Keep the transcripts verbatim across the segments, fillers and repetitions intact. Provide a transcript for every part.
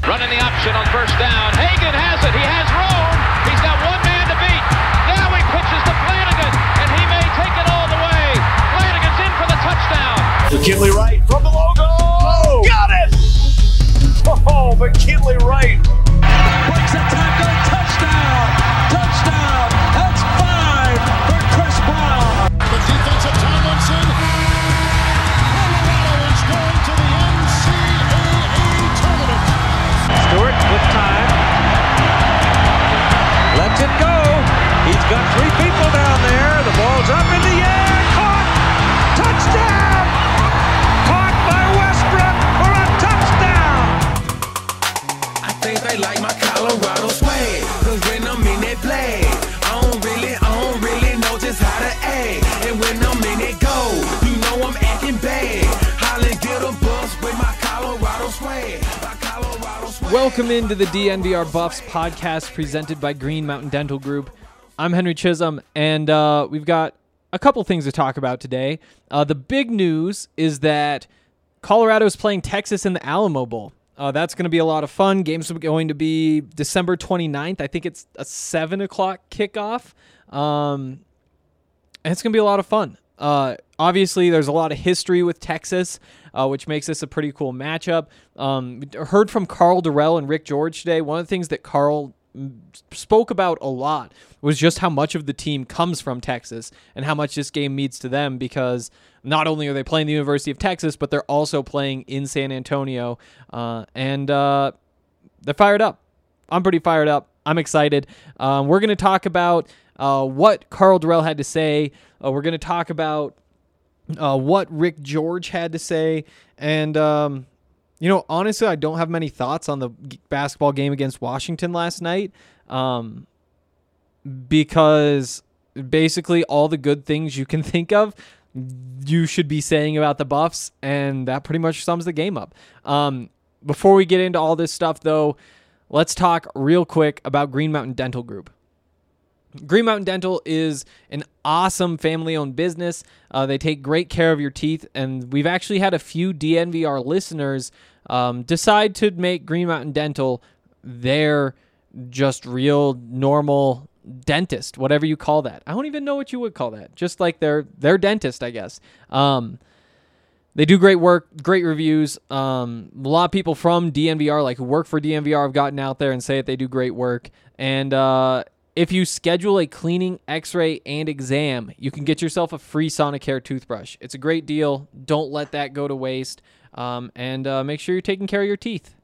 Running the option on first down. Hagan has it. He has room. He's got one man to beat. Now he pitches to Flanagan, and he may take it all the way. Flanagan's in for the touchdown. McKinley Wright from the logo. Oh, got it! Oh, McKinley Wright. Breaks a tackle. Touchdown. Touchdown. That's five for Chris Brown. The defense of Tomlinson. Colorado is going to the N C double A tournament. Stewart with time. Lets it go. He's got three people down there. The ball's up in the air. Caught. Touchdown. Caught by Westbrook for a touchdown. I think they like my Colorado swag. Cause when I'm in that play, I don't really, I don't really know just how to act. And when I'm in it go, you know I'm acting bad. Holland get a bus with my Colorado swag. My Colorado swag. Welcome into the D N V R Buffs podcast presented by Green Mountain Dental Group. I'm Henry Chisholm, and uh, we've got a couple things to talk about today. Uh, the big news is that Colorado is playing Texas in the Alamo Bowl. Uh, that's going to be a lot of fun. Game's going to be December twenty-ninth. I think it's a seven o'clock kickoff. Um, and it's going to be a lot of fun. Uh, obviously, there's a lot of history with Texas, uh, which makes this a pretty cool matchup. Um, heard from Carl Durrell and Rick George today. One of the things that Carl spoke about a lot was just how much of the team comes from Texas and how much this game means to them, because not only are they playing the University of Texas, but they're also playing in San Antonio, uh, and uh, they're fired up. I'm pretty fired up. I'm excited. Um, we're going to talk about uh, what Carl Durrell had to say. Uh, we're going to talk about uh, what Rick George had to say, and um, you know, honestly, I don't have many thoughts on the g- basketball game against Washington last night, um, because basically all the good things you can think of, you should be saying about the Buffs, and that pretty much sums the game up. Um, before we get into all this stuff, though, let's talk real quick about Green Mountain Dental Group. Green Mountain Dental is an awesome family-owned business. Uh, they take great care of your teeth, and we've actually had a few D N V R listeners um, decide to make Green Mountain Dental their just real normal dentist, whatever you call that. I don't even know what you would call that. Just like their their dentist, I guess. Um, they do great work, great reviews. Um, a lot of people from D N V R, like who work for D N V R, have gotten out there and say that they do great work. And uh, if you schedule a cleaning, x-ray, and exam, you can get yourself a free Sonicare toothbrush. It's a great deal. Don't let that go to waste. Um, and uh, make sure you're taking care of your teeth.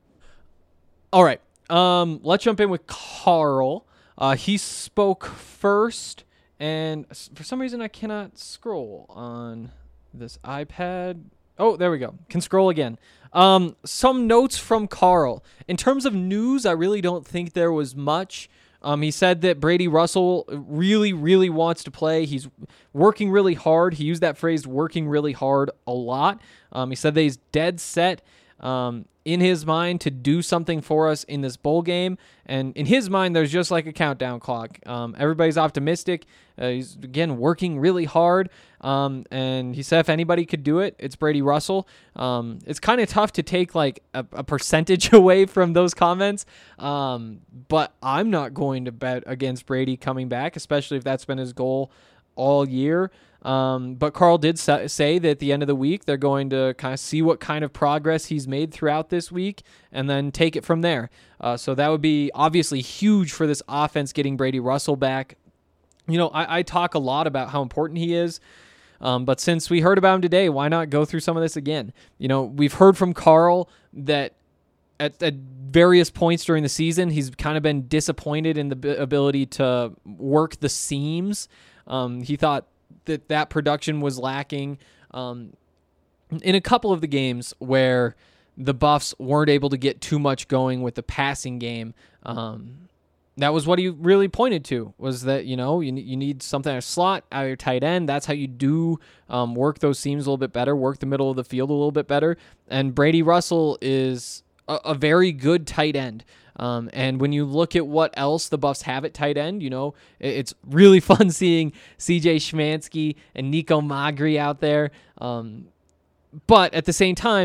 All right. Um, let's jump in with Carl. Uh, he spoke first, and for some reason I cannot scroll on this iPad. Oh, there we go. Can scroll again. Um, some notes from Carl. In terms of news, I really don't think there was much. Um, he said that Brady Russell really, really wants to play. He's working really hard. He used that phrase, working really hard, a lot. Um, he said that he's dead set um, in his mind to do something for us in this bowl game. And in his mind, there's just like a countdown clock. Um, everybody's optimistic. Uh, he's, again, working really hard. Um, and he said if anybody could do it, it's Brady Russell. Um, it's kind of tough to take like a, a percentage away from those comments. Um, but I'm not going to bet against Brady coming back, especially if that's been his goal all year. Um, but Carl did sa- say that at the end of the week, they're going to kind of see what kind of progress he's made throughout this week and then take it from there. Uh, so that would be obviously huge for this offense, getting Brady Russell back. You know, I, I talk a lot about how important he is. Um, but since we heard about him today, why not go through some of this again? You know, we've heard from Carl that at, at various points during the season, he's kind of been disappointed in the b- ability to work the seams. Um, he thought that that production was lacking um, in a couple of the games where the Buffs weren't able to get too much going with the passing game. Um, that was what he really pointed to, was that, you know, you, you need something at a slot out of your tight end. That's how you do um, work those seams a little bit better, work the middle of the field a little bit better. And Brady Russell is a, a very good tight end. Um, and when you look at what else the Buffs have at tight end, you know, it, it's really fun seeing C J Schmansky and Nico Magri out there. Um, but at the same time,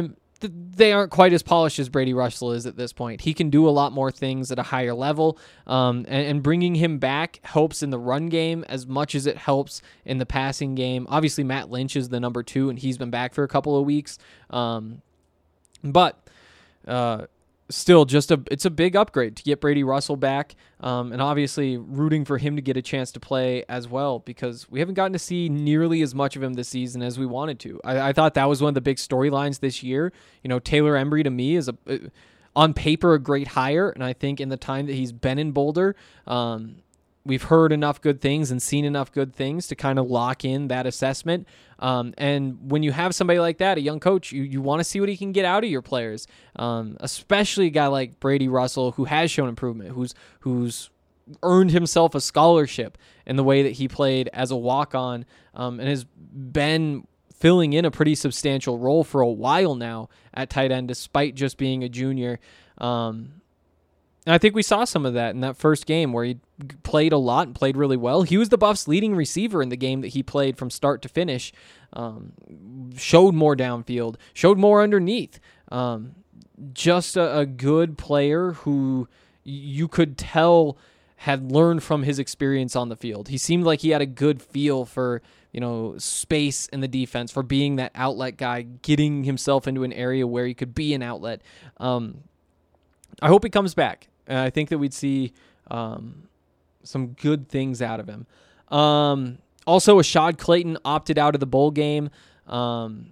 th- they aren't quite as polished as Brady Russell is at this point. He can do a lot more things at a higher level, um, and, and bringing him back helps in the run game as much as it helps in the passing game. Obviously, Matt Lynch is the number two, and he's been back for a couple of weeks. Um, but uh, still, just a it's a big upgrade to get Brady Russell back, um, and obviously rooting for him to get a chance to play as well, because we haven't gotten to see nearly as much of him this season as we wanted to. I, I thought that was one of the big storylines this year. You know, Taylor Embry to me is a on paper a great hire, and I think in the time that he's been in Boulder, um, we've heard enough good things and seen enough good things to kind of lock in that assessment. Um, and when you have somebody like that, a young coach, you, you want to see what he can get out of your players, um, especially a guy like Brady Russell, who has shown improvement, who's who's earned himself a scholarship in the way that he played as a walk-on, um, and has been filling in a pretty substantial role for a while now at tight end, despite just being a junior. Um, And I think we saw some of that in that first game where he played a lot and played really well. He was the Buffs' leading receiver in the game that he played from start to finish. Um, showed more downfield, showed more underneath. Um, just a, a good player who you could tell had learned from his experience on the field. He seemed like he had a good feel for, you know, space in the defense, for being that outlet guy, getting himself into an area where he could be an outlet. Um, I hope he comes back. And I think that we'd see um, some good things out of him. Um, also, Ashad Clayton opted out of the bowl game. Um,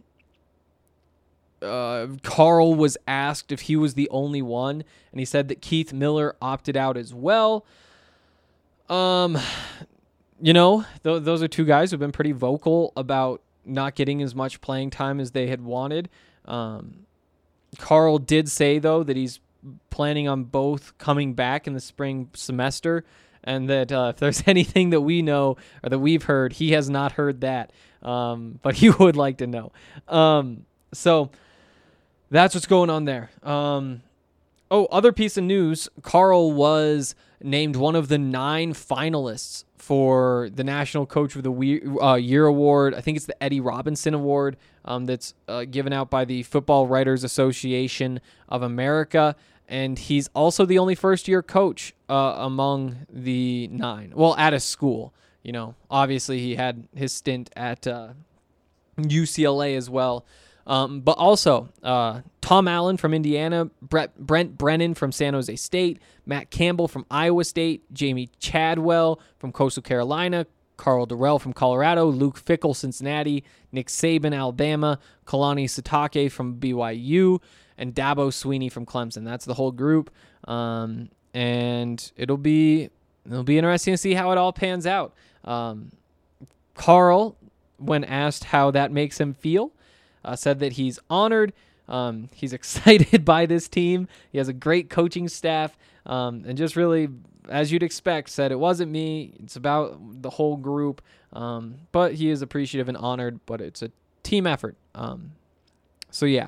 uh, Carl was asked if he was the only one, and he said that Keith Miller opted out as well. Um, you know, th- those are two guys who've been pretty vocal about not getting as much playing time as they had wanted. Um, Carl did say, though, that he's planning on both coming back in the spring semester, and that uh, if there's anything that we know or that we've heard, he has not heard that, um, but he would like to know. Um, so that's what's going on there. Um, oh, other piece of news, Carl was named one of the nine finalists for the National Coach of the Year Award. I think it's the Eddie Robinson Award um, that's uh, given out by the Football Writers Association of America. And he's also the only first-year coach uh, among the nine. Well, at a school. You know, obviously he had his stint at uh, U C L A as well. Um, but also, uh, Tom Allen from Indiana, Brett, Brent Brennan from San Jose State, Matt Campbell from Iowa State, Jamie Chadwell from Coastal Carolina, Carl Durrell from Colorado, Luke Fickell, Cincinnati, Nick Saban, Alabama, Kalani Sitake from B Y U, and Dabo Sweeney from Clemson. That's the whole group, um, and it'll be it'll be interesting to see how it all pans out. Um, Carl, when asked how that makes him feel, uh, said that he's honored. Um, he's excited by this team. He has a great coaching staff, um, and just really, as you'd expect, said it wasn't me. It's about the whole group. Um, but he is appreciative and honored. But it's a team effort. Um, so yeah.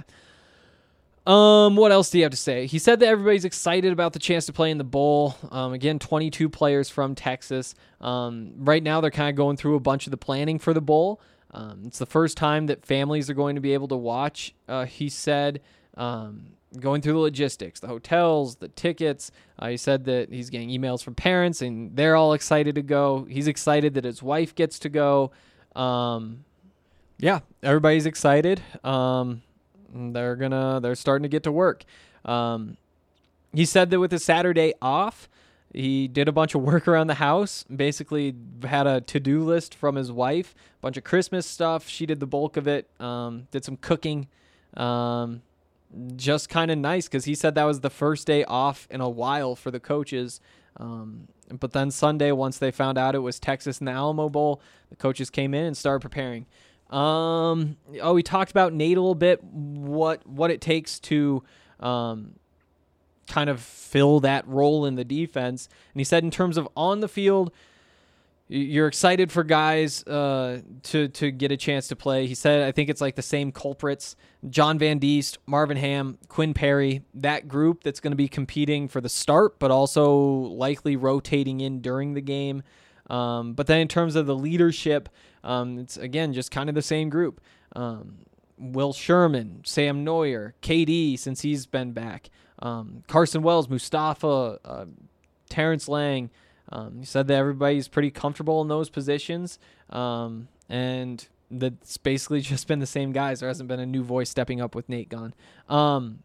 Um, what else do you have to say? He said that everybody's excited about the chance to play in the bowl. Um, again, twenty-two players from Texas. Um, right now they're kind of going through a bunch of the planning for the bowl. Um, it's the first time that families are going to be able to watch, uh, he said, um, going through the logistics, the hotels, the tickets. Uh, he said that he's getting emails from parents and they're all excited to go. He's excited that his wife gets to go. Um, yeah, everybody's excited. Um, they're gonna, they're starting to get to work. Um, he said that with his Saturday off, he did a bunch of work around the house, basically had a to-do list from his wife, a bunch of Christmas stuff. She did the bulk of it, um, did some cooking. Um, just kind of nice because he said that was the first day off in a while for the coaches. Um, but then Sunday, once they found out it was Texas and the Alamo Bowl, the coaches came in and started preparing. Um, oh, we talked about Nate a little bit, what what it takes to um, kind of fill that role in the defense. And he said in terms of on the field, you're excited for guys uh, to to get a chance to play. He said, I think it's like the same culprits, John Van Diest, Marvin Ham, Quinn Perry, that group that's going to be competing for the start, but also likely rotating in during the game. Um, but then in terms of the leadership, um, it's, again, just kind of the same group. Um, Will Sherman, Sam Neuer, K D since he's been back, um, Carson Wells, Mustafa, uh, Terrence Lang. Um, he said that everybody's pretty comfortable in those positions, um, and that's basically just been the same guys. There hasn't been a new voice stepping up with Nate gone. Um,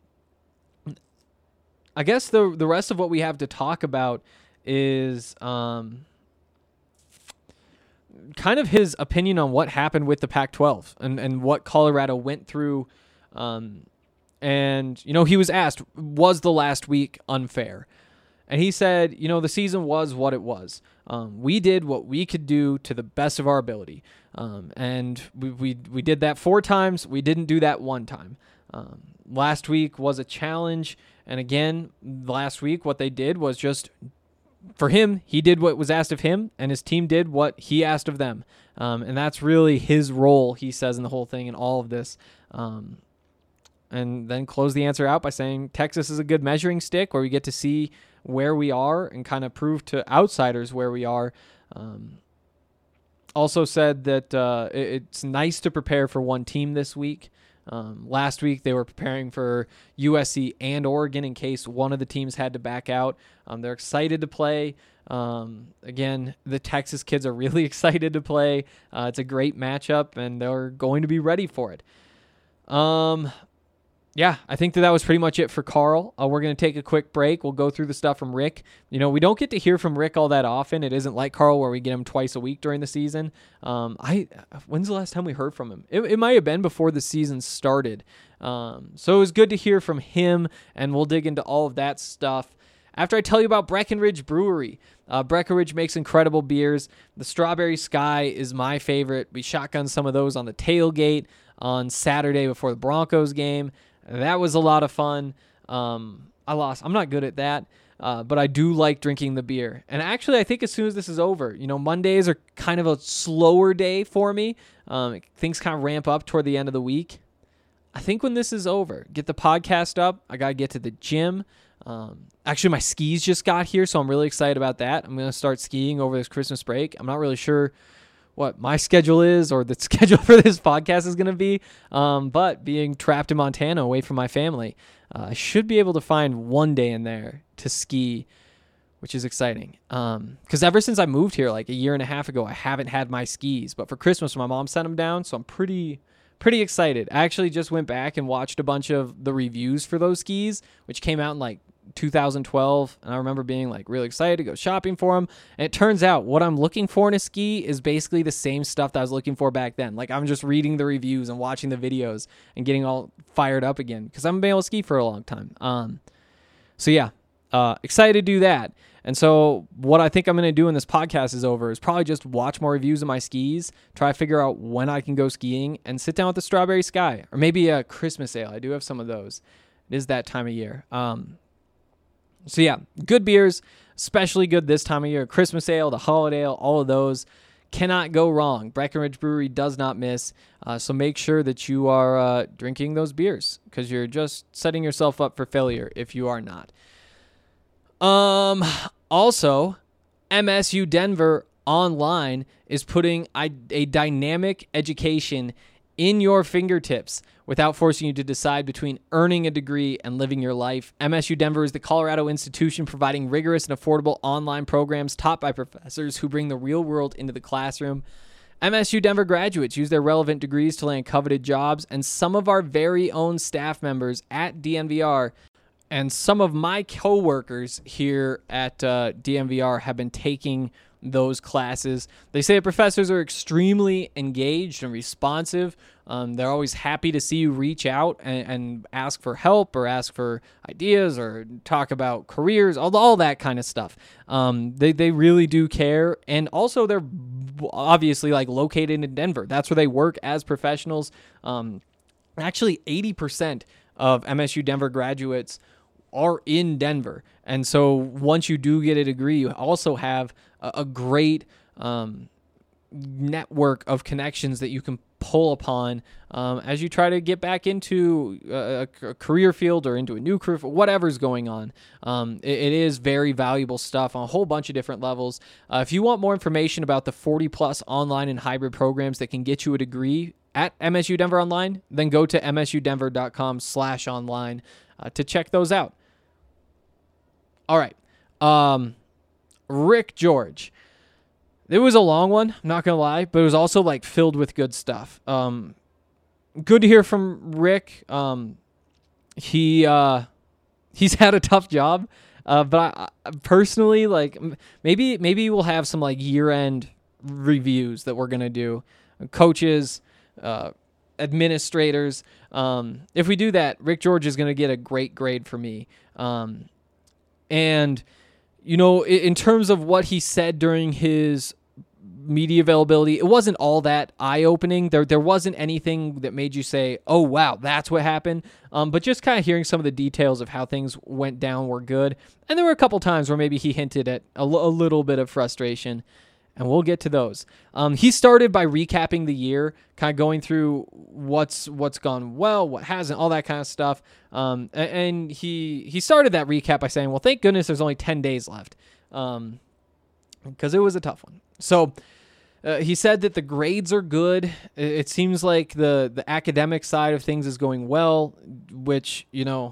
I guess the the rest of what we have to talk about is um, kind of his opinion on what happened with the Pac twelve and, and what Colorado went through. Um, and, you know, he was asked, was the last week unfair? And he said, you know, the season was what it was. Um, we did what we could do to the best of our ability. Um, and we, we we did that four times. We didn't do that one time. Um, last week was a challenge. And again, last week, what they did was just, for him, he did what was asked of him, and his team did what he asked of them. Um, and that's really his role, he says, in the whole thing and all of this. Um, and then close the answer out by saying Texas is a good measuring stick where we get to see where we are and kind of prove to outsiders where we are. Um, also said that uh, it, it's nice to prepare for one team this week. Um, last week they were preparing for U S C and Oregon in case one of the teams had to back out. Um, they're excited to play. Um, again, the Texas kids are really excited to play. Uh, it's a great matchup, and they're going to be ready for it. Um, Yeah, I think that that was pretty much it for Carl. Uh, we're going to take a quick break. We'll go through the stuff from Rick. You know, we don't get to hear from Rick all that often. It isn't like Carl where we get him twice a week during the season. Um, I when's the last time we heard from him? It, it might have been before the season started. Um, so it was good to hear from him, and we'll dig into all of that stuff after I tell you about Breckenridge Brewery. Uh, Breckenridge makes incredible beers. The Strawberry Sky is my favorite. We shotgunned some of those on the tailgate on Saturday before the Broncos game. That was a lot of fun. Um, I lost. I'm not good at that, uh, but I do like drinking the beer. And actually, I think as soon as this is over, you know, Mondays are kind of a slower day for me. Um, things kind of ramp up toward the end of the week. I think when this is over, get the podcast up. I got to get to the gym. Um, actually, my skis just got here, so I'm really excited about that. I'm going to start skiing over this Christmas break. I'm not really sure what my schedule is or the schedule for this podcast is going to be. Um, but being trapped in Montana away from my family, uh, I should be able to find one day in there to ski, which is exciting. Um, cause ever since I moved here, like a year and a half ago, I haven't had my skis, but for Christmas, my mom sent them down. So I'm pretty, pretty excited. I actually just went back and watched a bunch of the reviews for those skis, which came out in like two thousand twelve, and I remember being like really excited to go shopping for them. And it turns out what I'm looking for in a ski is basically the same stuff that I was looking for back then. Like I'm just reading the reviews and watching the videos and getting all fired up again because I haven't been able to ski for a long time. Um, so yeah, uh, excited to do that. And so what I think I'm going to do when this podcast is over is probably just watch more reviews of my skis, try to figure out when I can go skiing, and sit down with the Strawberry Sky or maybe a Christmas ale. I do have some of those. It is that time of year. Um, So yeah, good beers, especially good this time of year. Christmas ale, the holiday ale, all of those cannot go wrong. Breckenridge Brewery does not miss. Uh, so make sure that you are uh, drinking those beers because you're just setting yourself up for failure if you are not. Um. Also, M S U Denver Online is putting a, a dynamic education in your fingertips without forcing you to decide between earning a degree and living your life. M S U Denver is the Colorado institution providing rigorous and affordable online programs taught by professors who bring the real world into the classroom. M S U Denver graduates use their relevant degrees to land coveted jobs, and some of our very own staff members at D N V R and some of my coworkers here at uh, D N V R have been taking those classes. They say the professors are extremely engaged and responsive. Um, they're always happy to see you reach out and, and ask for help or ask for ideas or talk about careers, all, all that kind of stuff. Um, they, they really do care. And also they're obviously like located in Denver. That's where they work as professionals. Um, actually eighty percent of M S U Denver graduates are in Denver. And so once you do get a degree, you also have a, a great um, network of connections that you can pull upon um, as you try to get back into a, a career field or into a new career, whatever's going on. Um, it, it is very valuable stuff on a whole bunch of different levels. Uh, if you want more information about the forty plus online and hybrid programs that can get you a degree at M S U Denver Online, then go to msudenver.com slash online uh, to check those out. All right. Um, Rick George. It was a long one, I'm not going to lie, but it was also like filled with good stuff. Um, good to hear from Rick. Um, he, uh, he's had a tough job. Uh, but I, I personally, like, maybe, maybe we'll have some like year end reviews that we're going to do. Coaches, uh, administrators. Um, if we do that, Rick George is going to get a great grade for me. Um, and, you know, in, in terms of what he said during his media availability, it wasn't all that eye-opening. There there wasn't anything that made you say, oh, wow, that's what happened. Um, but just kind of hearing some of the details of how things went down were good. And there were a couple times where maybe he hinted at a, l- a little bit of frustration, and we'll get to those. Um, he started by recapping the year, kind of going through what's what's gone well, what hasn't, all that kind of stuff. Um, and, and he he started that recap by saying, well, thank goodness there's only ten days left, um, because it was a tough one. So uh, he said that the grades are good. It seems like the, the academic side of things is going well, which, you know,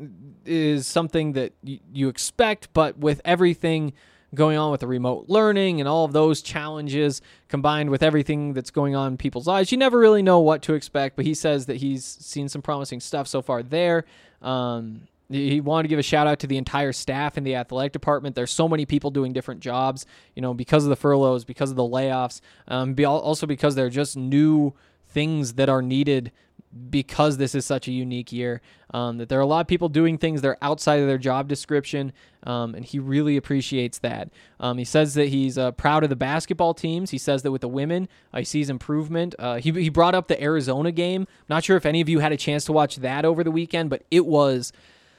is something that y- you expect, but with everything going on with the remote learning and all of those challenges combined with everything that's going on in people's lives, you never really know what to expect, but he says that he's seen some promising stuff so far there. Um, he wanted to give a shout out to the entire staff in the athletic department. There's so many people doing different jobs, you know, because of the furloughs, because of the layoffs, um, be also because they're just new things that are needed because this is such a unique year, um, that there are a lot of people doing things that are outside of their job description, um, and he really appreciates that. Um, he says that he's uh, proud of the basketball teams. He says that with the women, uh, he sees improvement. Uh, he, he brought up the Arizona game. Not sure if any of you had a chance to watch that over the weekend, but it was...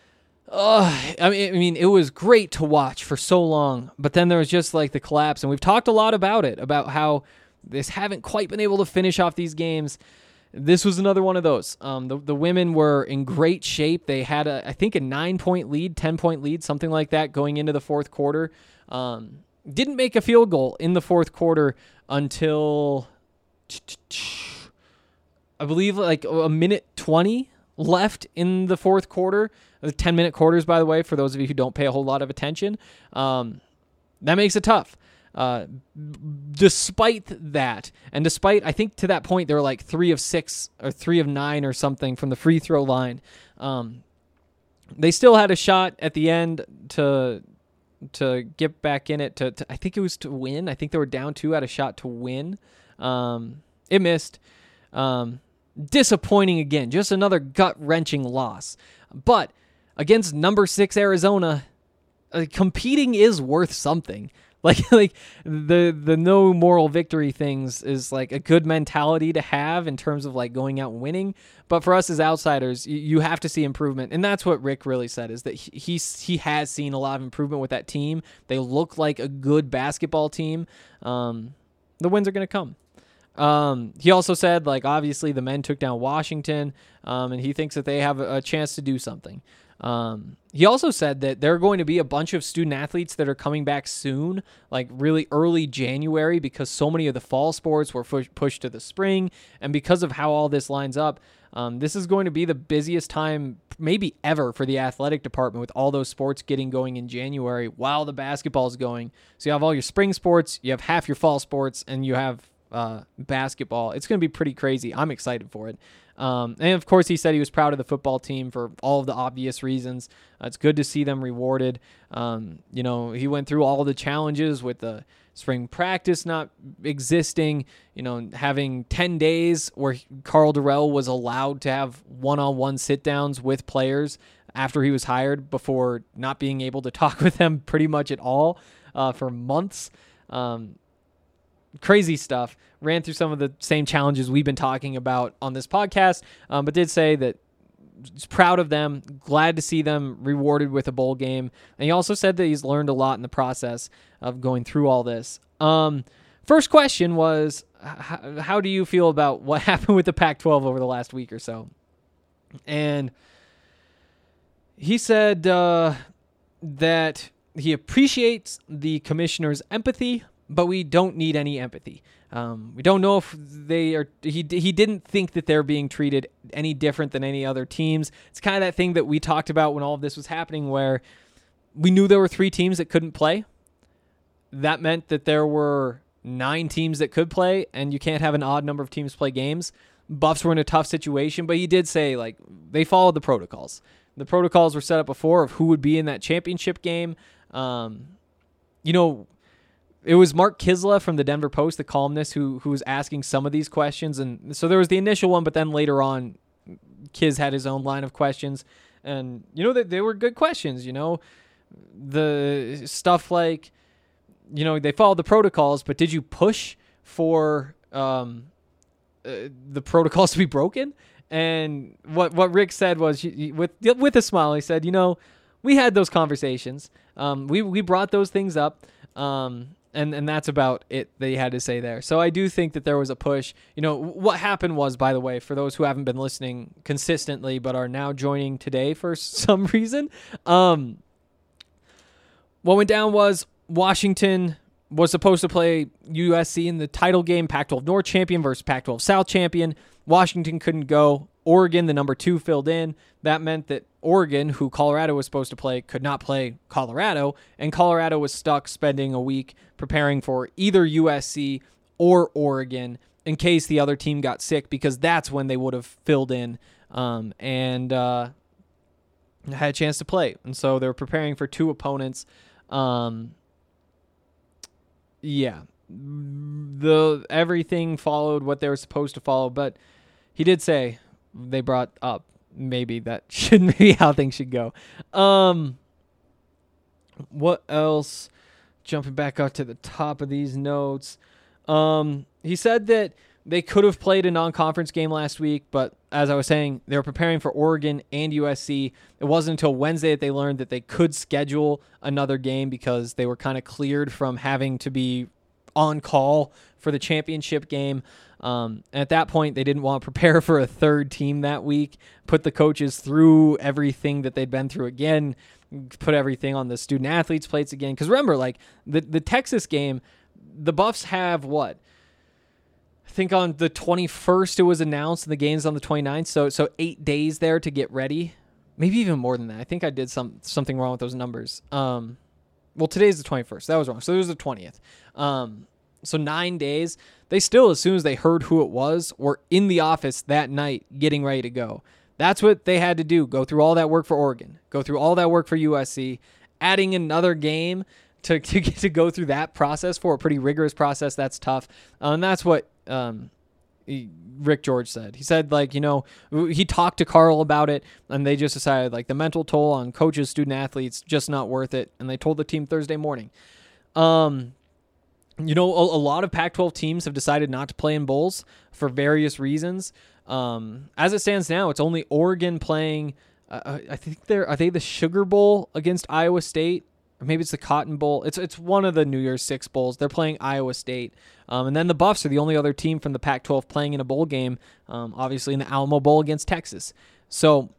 Uh, I mean, I mean, it was great to watch for so long, but then there was just like the collapse, and we've talked a lot about it, about how this haven't quite been able to finish off these games. This was another one of those. Um, the, the women were in great shape. They had, a, I think, a nine-point lead, ten-point lead, something like that going into the fourth quarter. Um, didn't make a field goal in the fourth quarter until, I believe, like a minute twenty left in the fourth quarter. The ten-minute quarters, by the way, for those of you who don't pay a whole lot of attention. Um, that makes it tough. Uh, despite that, and despite, I think to that point, they were like three of six or three of nine or something from the free throw line. Um, they still had a shot at the end to to get back in it. To, to I think it was to win. I think they were down two, had a shot to win. Um, it missed. Um, disappointing again. Just another gut-wrenching loss. But against number six Arizona, uh, competing is worth something. Like, like the the no moral victory things is like a good mentality to have in terms of like going out and winning. But for us as outsiders, you, you have to see improvement, and that's what Rick really said, is that he he's, he has seen a lot of improvement with that team. They look like a good basketball team. Um, the wins are going to come. Um, he also said, like, obviously the men took down Washington, um, and he thinks that they have a, a chance to do something. Um, he also said that there are going to be a bunch of student athletes that are coming back soon, like really early January, because so many of the fall sports were push- pushed to the spring. And because of how all this lines up, um, this is going to be the busiest time maybe ever for the athletic department, with all those sports getting going in January while the basketball is going. So you have all your spring sports, you have half your fall sports, and you have uh, basketball. It's going to be pretty crazy. I'm excited for it. Um, and of course, he said he was proud of the football team for all of the obvious reasons. Uh, it's good to see them rewarded. Um, you know, he went through all the challenges with the spring practice not existing, you know, having ten days where Carl Durrell was allowed to have one-on-one sit-downs with players after he was hired, before not being able to talk with them pretty much at all uh, for months. Um, Crazy stuff. Ran through some of the same challenges we've been talking about on this podcast, um, but did say that he's proud of them, glad to see them rewarded with a bowl game. And he also said that he's learned a lot in the process of going through all this. Um, first question was, h- how do you feel about what happened with the Pac twelve over the last week or so? And he said uh, that he appreciates the commissioner's empathy, but we don't need any empathy. Um, we don't know if they are. He he didn't think that they're being treated any different than any other teams. It's kind of that thing that we talked about when all of this was happening, where we knew there were three teams that couldn't play. That meant that there were nine teams that could play, and you can't have an odd number of teams play games. Buffs were in a tough situation, but he did say like they followed the protocols. The protocols were set up before of who would be in that championship game. Um, you know. It was Mark Kisla from the Denver Post, the columnist, who who was asking some of these questions. And so there was the initial one, but then later on, Kis had his own line of questions. And, you know, they, they were good questions, you know. The stuff like, you know, they followed the protocols, but did you push for um, uh, the protocols to be broken? And what what Rick said was, with with a smile, he said, you know, we had those conversations. Um, we, we brought those things up. Um And and that's about it they had to say there. So I do think that there was a push. You know, what happened was, by the way, for those who haven't been listening consistently but are now joining today for some reason, um, what went down was Washington was supposed to play U S C in the title game, Pac twelve North champion versus Pac twelve South champion. Washington couldn't go. Oregon, the number two, filled in. That meant that Oregon, who Colorado was supposed to play, could not play Colorado, and Colorado was stuck spending a week preparing for either U S C or Oregon in case the other team got sick, because that's when they would have filled in um, and uh, had a chance to play. And so they were preparing for two opponents. Um, yeah, the everything followed what they were supposed to follow, but he did say they brought up maybe that shouldn't be how things should go. Um, what else? Jumping back up to the top of these notes. Um, he said that they could have played a non-conference game last week, but as I was saying, they were preparing for Oregon and U S C. It wasn't until Wednesday that they learned that they could schedule another game because they were kind of cleared from having to be on call for the championship game. Um, and at that point, they didn't want to prepare for a third team that week, put the coaches through everything that they'd been through again, put everything on the student athletes' plates again. Because remember, like the, the Texas game, the Buffs have what? I think on the twenty-first it was announced, and the game's on the twenty-ninth. So so eight days there to get ready. Maybe even more than that. I think I did some something wrong with those numbers. Um, well, today's the twenty-first. That was wrong. So it was the twentieth. Um, so nine days. They still, as soon as they heard who it was, were in the office that night getting ready to go. That's what they had to do. Go through all that work for Oregon. Go through all that work for U S C. Adding another game to to get to go through that process for a pretty rigorous process, that's tough. Uh, and that's what um, he, Rick George said. He said, like, you know, he talked to Carl about it, and they just decided, like, the mental toll on coaches, student athletes, just not worth it. And they told the team Thursday morning. Um... You know, a, a lot of Pac twelve teams have decided not to play in bowls for various reasons. Um, as it stands now, it's only Oregon playing. Uh, I think they're are they the Sugar Bowl against Iowa State, or maybe it's the Cotton Bowl. It's it's one of the New Year's Six bowls. They're playing Iowa State, um, and then the Buffs are the only other team from the Pac twelve playing in a bowl game. Um, obviously in the Alamo Bowl against Texas. So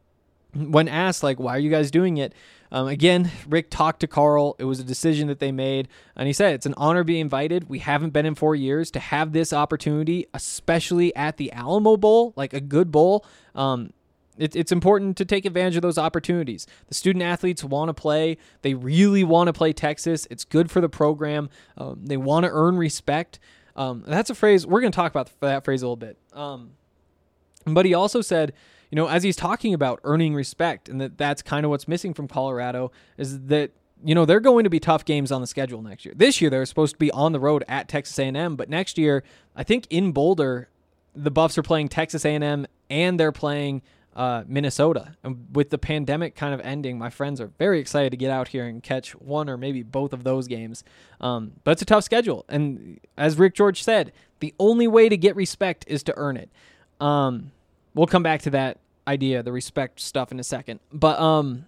when asked, like, why are you guys doing it? Um, again, Rick talked to Carl. It was a decision that they made. And he said, it's an honor to be invited. We haven't been in four years to have this opportunity, especially at the Alamo Bowl, like a good bowl. Um, it, it's important to take advantage of those opportunities. The student athletes want to play. They really want to play Texas. It's good for the program. Um, they want to earn respect. Um, that's a phrase. We're going to talk about that phrase a little bit. Um, but he also said, you know, as he's talking about earning respect, and that that's kind of what's missing from Colorado, is that, you know, they're going to be tough games on the schedule next year. This year, they're supposed to be on the road at Texas A and M, but next year, I think in Boulder, the Buffs are playing Texas A and M, and they're playing uh, Minnesota. And with the pandemic kind of ending, my friends are very excited to get out here and catch one or maybe both of those games. Um, but it's a tough schedule. And as Rick George said, the only way to get respect is to earn it. Um, we'll come back to that idea, the respect stuff, in a second. But um,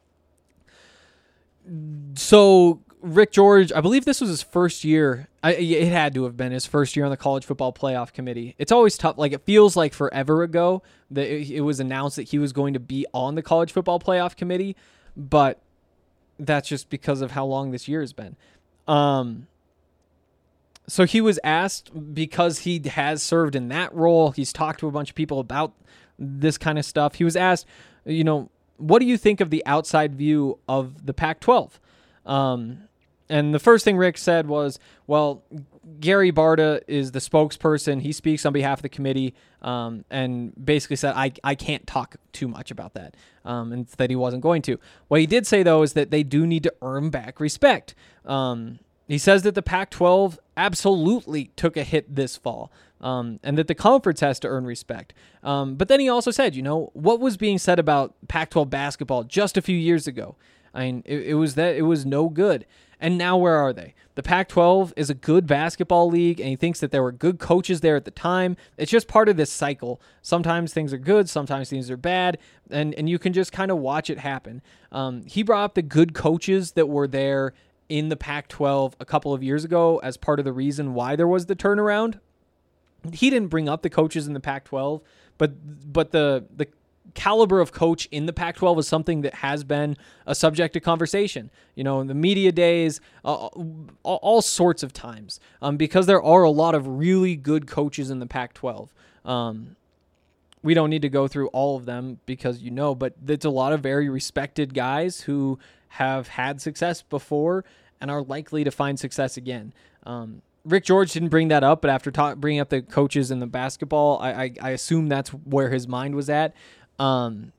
so Rick George, I believe this was his first year. I, it had to have been his first year on the College Football Playoff Committee. It's always tough. Like, it feels like forever ago that it, it was announced that he was going to be on the College Football Playoff Committee, but that's just because of how long this year has been. Um, so he was asked, because he has served in that role, he's talked to a bunch of people about this kind of stuff. He was asked, you know, what do you think of the outside view of the Pac twelve? Um, and the first thing Rick said was, well, Gary Barta is the spokesperson. He speaks on behalf of the committee, um, and basically said, I, I can't talk too much about that, um, and that he wasn't going to. What he did say, though, is that they do need to earn back respect. Um, he says that the Pac twelve absolutely took a hit this fall, um, and that the conference has to earn respect. Um, but then he also said, you know, what was being said about Pac twelve basketball just a few years ago? I mean, it, it was that it was no good. And now where are they? The Pac twelve is a good basketball league, and he thinks that there were good coaches there at the time. It's just part of this cycle. Sometimes things are good, sometimes things are bad, and, and you can just kind of watch it happen. Um, he brought up the good coaches that were there in the Pac twelve a couple of years ago as part of the reason why there was the turnaround. He didn't bring up the coaches in the Pac twelve, but but the the caliber of coach in the Pac twelve is something that has been a subject of conversation, you know, in the media days, uh, all, all sorts of times, um, because there are a lot of really good coaches in the Pac twelve. Um, we don't need to go through all of them because, you know, but it's a lot of very respected guys who have had success before and are likely to find success again. Um, Rick George didn't bring that up, but after ta- bringing up the coaches in the basketball, I, I, I assume that's where his mind was at. Um,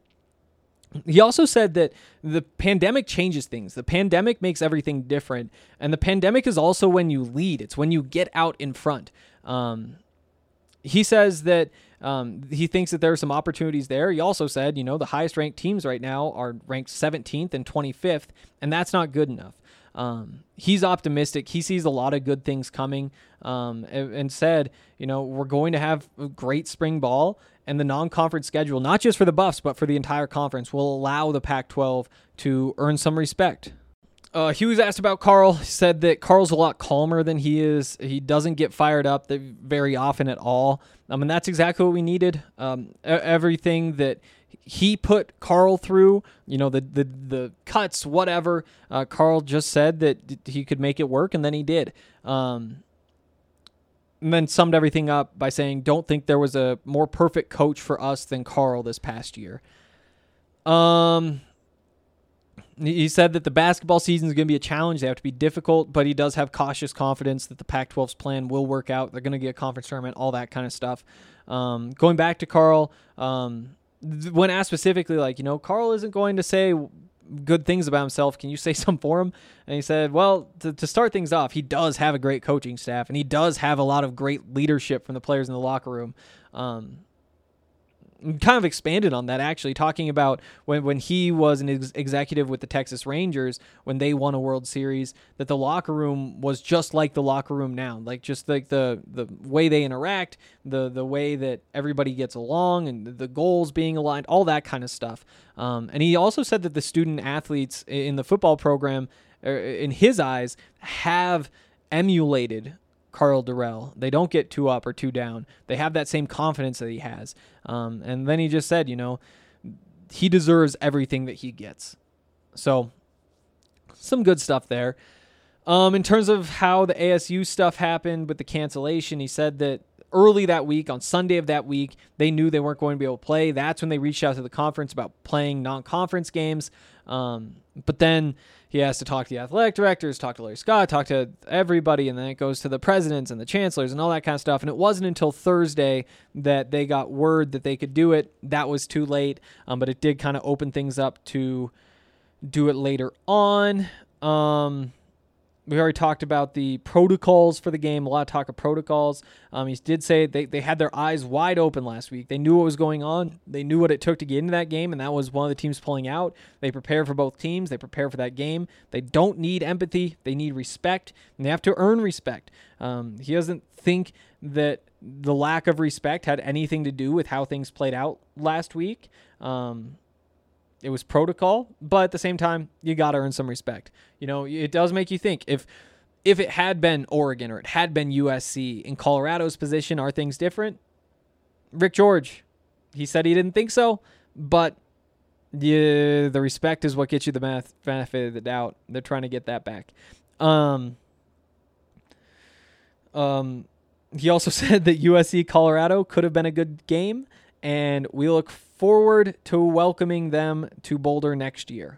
he also said that the pandemic changes things. The pandemic makes everything different. And the pandemic is also when you lead. It's when you get out in front. Um, he says that um, he thinks that there are some opportunities there. He also said, you know, the highest ranked teams right now are ranked seventeenth and twenty-fifth, and that's not good enough. Um, he's optimistic. He sees a lot of good things coming, um, and, and said, you know, we're going to have a great spring ball, and the non-conference schedule, not just for the Buffs, but for the entire conference, will allow the Pac twelve to earn some respect. Uh, he was asked about Carl. He said that Carl's a lot calmer than he is. He doesn't get fired up very often at all. Um, and that's exactly what we needed. Um, everything that he put Carl through, you know, the the the cuts, whatever. Uh, Carl just said that he could make it work, and then he did. Um, and then summed everything up by saying, "Don't think there was a more perfect coach for us than Carl this past year." Um, he said that the basketball season is going to be a challenge. They have to be difficult, but he does have cautious confidence that the Pac twelve's plan will work out. They're going to get a conference tournament, all that kind of stuff. Um, going back to Carl. Um, When asked specifically, like, you know, Carl isn't going to say good things about himself. Can you say some for him? And he said, well, to, to start things off, he does have a great coaching staff, and he does have a lot of great leadership from the players in the locker room. Um, kind of expanded on that, actually, talking about when, when he was an ex- executive with the Texas Rangers, when they won a World Series, that the locker room was just like the locker room now, like just like the, the way they interact, the, the way that everybody gets along, and the goals being aligned, all that kind of stuff. Um, and he also said that the student athletes in the football program, in his eyes, have emulated Karl Dorrell. They don't get two up or two down. They have that same confidence that he has. Um, and then he just said, you know, he deserves everything that he gets. So some good stuff there. Um, in terms of how the A S U stuff happened with the cancellation, he said that early that week, on Sunday of that week, they knew they weren't going to be able to play. That's when they reached out to the conference about playing non-conference games. Um, but then he has to talk to the athletic directors, talk to Larry Scott, talk to everybody, and then it goes to the presidents and the chancellors and all that kind of stuff. And it wasn't until Thursday that they got word that they could do it. That was too late, um, but it did kind of open things up to do it later on. Um, we already talked about the protocols for the game, a lot of talk of protocols. Um, he did say they, they had their eyes wide open last week. They knew what was going on. They knew what it took to get into that game, and that was one of the teams pulling out. They prepare for both teams. They prepare for that game. They don't need empathy. They need respect, and they have to earn respect. Um, he doesn't think that the lack of respect had anything to do with how things played out last week. Um It was protocol, but at the same time, you got to earn some respect. You know, it does make you think. If if it had been Oregon or it had been U S C in Colorado's position, are things different? Rick George, he said he didn't think so, but yeah, the respect is what gets you the math, benefit of the doubt. They're trying to get that back. Um, Um, he also said that U S C Colorado could have been a good game, and we look forward to welcoming them to Boulder next year.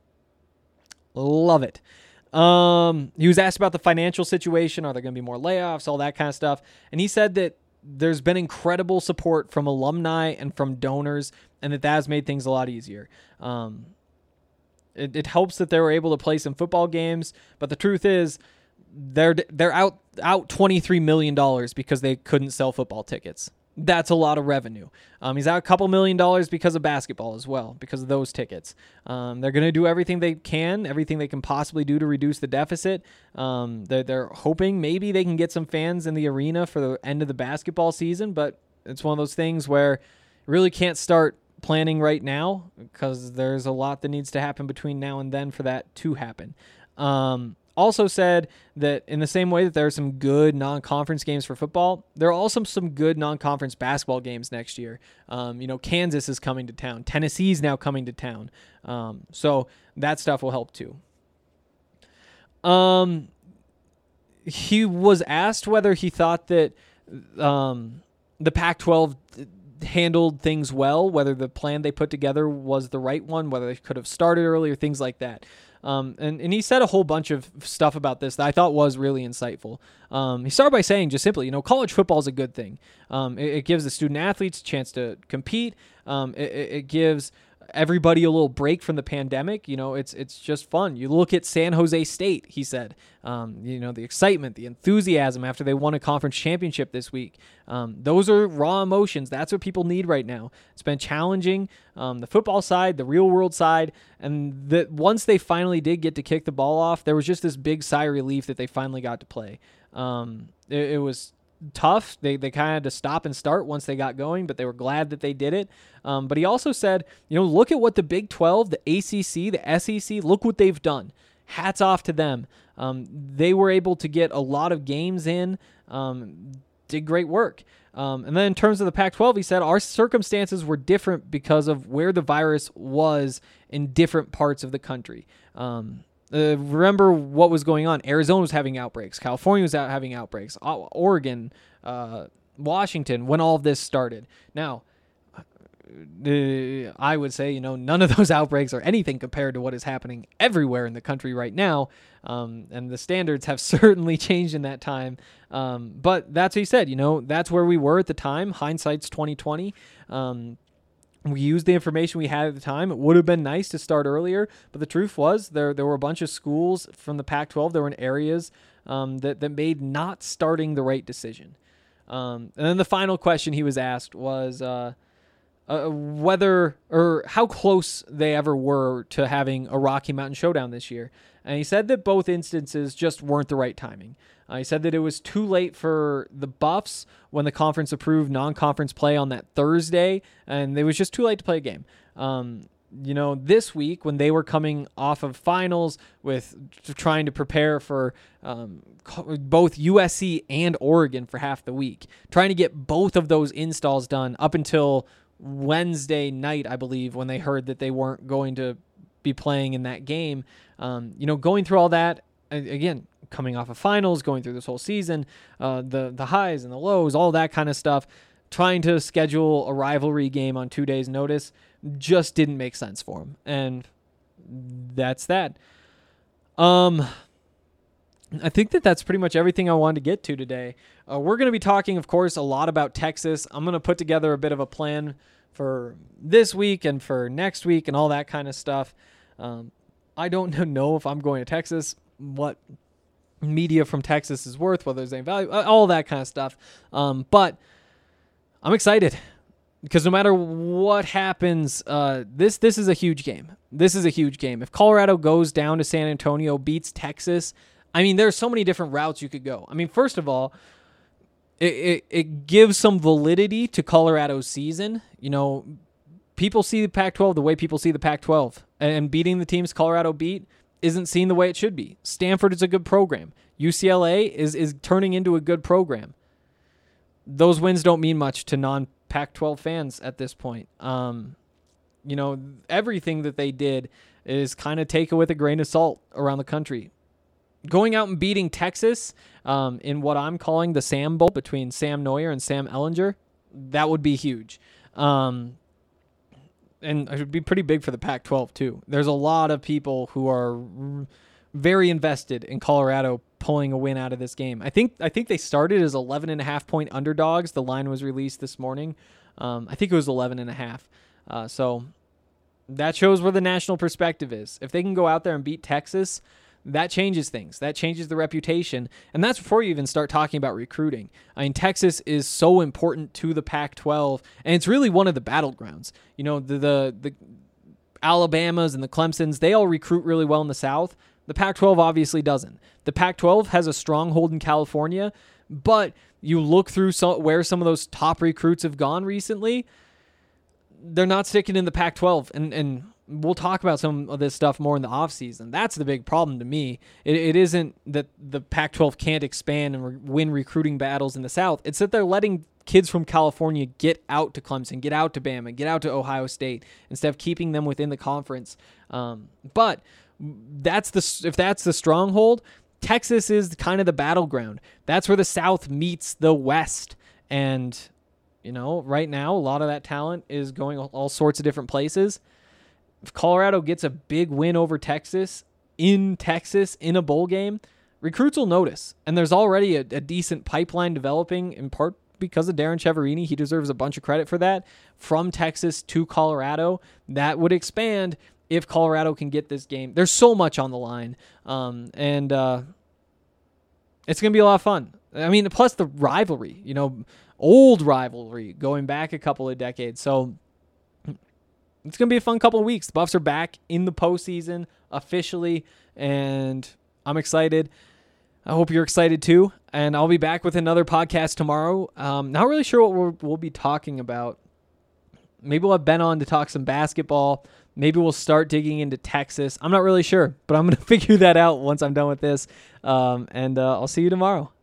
Love it. Um, he was asked about the financial situation. Are there going to be more layoffs? All that kind of stuff. And he said that there's been incredible support from alumni and from donors, and that that has made things a lot easier. Um, it, it helps that they were able to play some football games, but the truth is they're they're out out twenty-three million dollars because they couldn't sell football tickets. That's a lot of revenue. Um, he's out a couple million dollars because of basketball as well, because of those tickets. Um, they're going to do everything they can, everything they can possibly do to reduce the deficit. Um, they're, they're hoping maybe they can get some fans in the arena for the end of the basketball season, but it's one of those things where you really can't start planning right now because there's a lot that needs to happen between now and then for that to happen. Um, Also said that in the same way that there are some good non-conference games for football, there are also some good non-conference basketball games next year. Um, you know, Kansas is coming to town. Tennessee's now coming to town. Um, so that stuff will help too. Um, he was asked whether he thought that um, the Pac twelve handled things well, whether the plan they put together was the right one, whether they could have started earlier, things like that. Um, and, and he said a whole bunch of stuff about this that I thought was really insightful. Um, he started by saying just simply, you know, college football is a good thing. Um, it, it gives the student athletes a chance to compete. Um, it, it gives everybody a little break from the pandemic. You know, it's it's just fun. You look at San Jose State, he said, um, you know, the excitement, the enthusiasm after they won a conference championship this week. Um, those are raw emotions. That's what people need right now. It's been challenging, um, the football side, the real world side, and that once they finally did get to kick the ball off, there was just this big sigh of relief that they finally got to play. Um, it, it was tough. They they kind of had to stop and start once they got going, but they were glad that they did it. Um, but he also said, you know, look at what the Big twelve, the A C C, the S E C, look what they've done. Hats off to them. Um, they were able to get a lot of games in, um, did great work. Um, and then in terms of the Pac twelve, he said our circumstances were different because of where the virus was in different parts of the country. Um, Uh, remember what was going on. Arizona was having outbreaks. California was out having outbreaks. O- Oregon, uh, Washington, when all of this started. Now, uh, I would say, you know, none of those outbreaks are anything compared to what is happening everywhere in the country right now. Um, and the standards have certainly changed in that time. Um, but that's what he said, you know, that's where we were at the time. Hindsight's twenty twenty. Um, We used the information we had at the time. It would have been nice to start earlier, but the truth was there there were a bunch of schools from the Pac twelve that were in areas um, that, that made not starting the right decision. Um, and then the final question he was asked was uh, uh, whether or how close they ever were to having a Rocky Mountain Showdown this year. And he said that both instances just weren't the right timing. Uh, he said that it was too late for the Buffs when the conference approved non-conference play on that Thursday, and it was just too late to play a game. Um, you know, this week when they were coming off of finals with trying to prepare for um, both U S C and Oregon for half the week, trying to get both of those installs done up until Wednesday night, I believe, when they heard that they weren't going to be playing in that game. Um, you know, going through all that, again, coming off of finals, going through this whole season, uh, the the highs and the lows, all that kind of stuff, trying to schedule a rivalry game on two days' notice just didn't make sense for him. And that's that. Um, I think that that's pretty much everything I wanted to get to today. Uh, we're going to be talking, of course, a lot about Texas. I'm going to put together a bit of a plan for this week and for next week and all that kind of stuff. Um, I don't know if I'm going to Texas, what media from Texas is worth, whether there's any value, all that kind of stuff. Um, but I'm excited because no matter what happens, uh, this this is a huge game. This is a huge game. If Colorado goes down to San Antonio, beats Texas, I mean, there's so many different routes you could go. I mean, first of all, it, it, it gives some validity to Colorado's season. You know, people see the Pac twelve the way people see the Pac twelve, and beating the teams Colorado beat isn't seen the way it should be. Stanford is a good program. U C L A is is turning into a good program. Those wins don't mean much to non-Pac twelve fans at this point. Um, you know, everything that they did is kind of taken with a grain of salt around the country. going out and beating Texas um, in what I'm calling the Sam Bowl between Sam Neuer and Sam Ehlinger, that would be huge. Um, and it would be pretty big for the Pac twelve too. There's a lot of people who are r- very invested in Colorado pulling a win out of this game. I think I think they started as eleven and a half point underdogs. The line was released this morning. Um, I think it was eleven and a half. Uh, so that shows where the national perspective is. If they can go out there and beat Texas, that changes things. That changes the reputation. And that's before you even start talking about recruiting. I mean, Texas is so important to the Pac twelve, and it's really one of the battlegrounds. You know, the the, the Alabamas and the Clemsons, they all recruit really well in the South. The Pac twelve obviously doesn't. The Pac twelve has a stronghold in California, but you look through some, where some of those top recruits have gone recently, they're not sticking in the Pac twelve. And, and we'll talk about some of this stuff more in the offseason. That's the big problem to me. It, it isn't that the Pac twelve can't expand and re- win recruiting battles in the South. It's that they're letting kids from California get out to Clemson, get out to Bama, get out to Ohio State, instead of keeping them within the conference. Um, but that's the if that's the stronghold, Texas is kind of the battleground. That's where the South meets the West. And, you know, right now, a lot of that talent is going all sorts of different places. If Colorado gets a big win over Texas, in Texas, in a bowl game, recruits will notice. And there's already a, a decent pipeline developing, in part because of Darren Chiaverini. He deserves a bunch of credit for that. From Texas to Colorado, that would expand if Colorado can get this game. There's so much on the line. Um, and uh, it's going to be a lot of fun. I mean, plus the rivalry, you know, old rivalry going back a couple of decades. So it's going to be a fun couple of weeks. The Buffs are back in the postseason officially, and I'm excited. I hope you're excited too. And I'll be back with another podcast tomorrow. Um, not really sure what we'll, we'll be talking about. Maybe we'll have Ben on to talk some basketball. Maybe we'll start digging into Texas. I'm not really sure, but I'm going to figure that out once I'm done with this. Um, and uh, I'll see you tomorrow.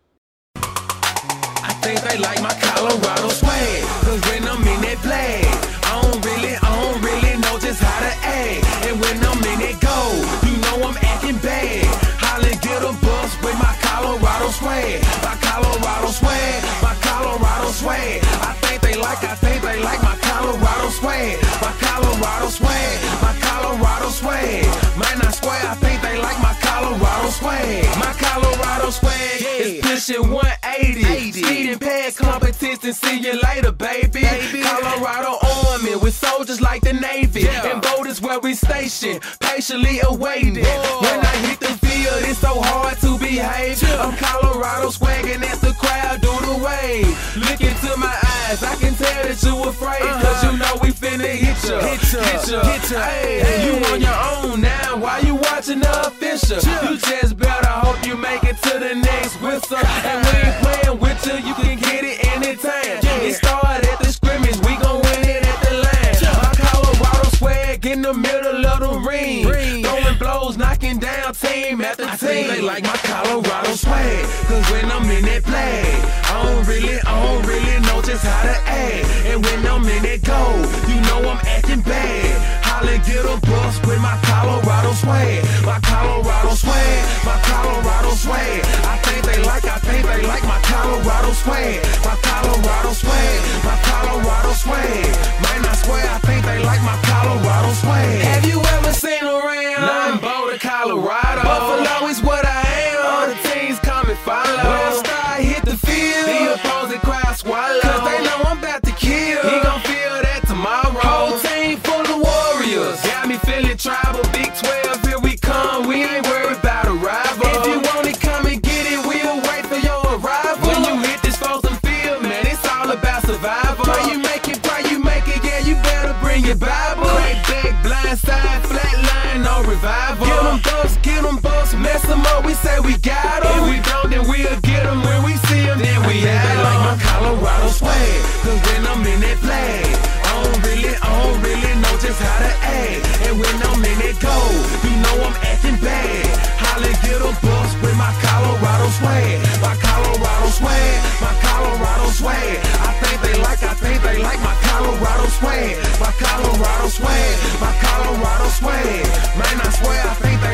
I think they like my Colorado swag, cause when I'm in that play, I don't really, I don't really know just how to act. And when I'm in that go, you know I'm acting bad. Holly get a bus with my Colorado swag, my Colorado swag, my Colorado swag. I think they like, I think they like my Colorado swag, my Colorado swag, my Colorado swag. Man, I swear, I think they like my Colorado swag, my Colorado swag is pushing one eighty. Speeding past competition, see you later, baby. baby. Colorado Army with soldiers like the Navy, yeah. And voters where we station, patiently awaiting. Whoa. When I hit the field, it's so hard to behave. Yeah. I'm Colorado swagging as the crowd do the wave. Look into my eyes, I can tell that you afraid, uh-huh. Cause you know we finna hit ya, hit ya, hit ya, hit ya. Hey, hey. You on your own now, why you watching the official? Yeah. You just better hope you make it to the next whistle. And we ain't playing with you, you can get it anytime. Yeah. It started at the scrimmage, we gon' win it at the line. Yeah. My Colorado swag in the middle of the ring, ring. Throwing blows, knocking down team after I team. Think they like my Colorado swag, cause when I'm in that play, I don't really, I don't really know just how to act. And when I'm in that go, you know I'm acting bad. Holly get a bus with my Colorado swag, my Colorado swag, my Colorado swag. I think they like, I think they like my Colorado swag, my Colorado swag, my Colorado swag. Man, I swear, I think they like my Colorado swag. Have you ever seen around? Nothing Boulder, Colorado. Buffalo is what I am. All the teams come and follow. When I start hit the field, the opposing crowd swallow. Cause they know I'm about to kill. He gon' feel that tomorrow. Whole team full of warriors. Got me feeling tribal. Big twelve, here we come. We ain't worried about a rival. If you want it, come and get it. We'll wait for your arrival. When you hit this frozen field, man, it's all about survival. Pray you make it, pray you make it. Yeah, you better bring your Bible. Crack back, blind side, flat line, no revival. Get them bucks, get them bucks, mess them up. We say we got them. If we don't, then we'll get them. When we see them, then we have them. Like my Colorado swag, cause when I'm in that flag, I don't really, I don't really know just how to act. And when I'm in that go, you know I'm acting bad. Holly get a bus with my Colorado swag, my Colorado swag, my Colorado swag. I think they like, I think they like my Colorado swag, my Colorado swag, my Colorado swag. Man, I swear, I think they like my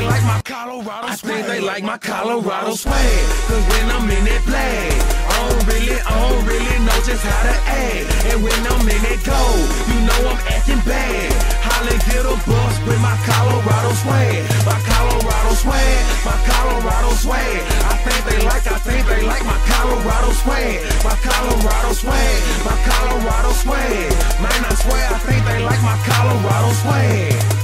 Colorado I swag. think they like my Colorado swag. Cause when I'm in that flag, I don't really, I don't really know just how to act. And when I'm in that gold, you know I'm acting bad. Holly get a bus with my Colorado swag. My Colorado swag, my Colorado swag. I think they like, I think they like my Colorado swag. My Colorado swag, my Colorado swag. Man, I swear I think they like my Colorado swag.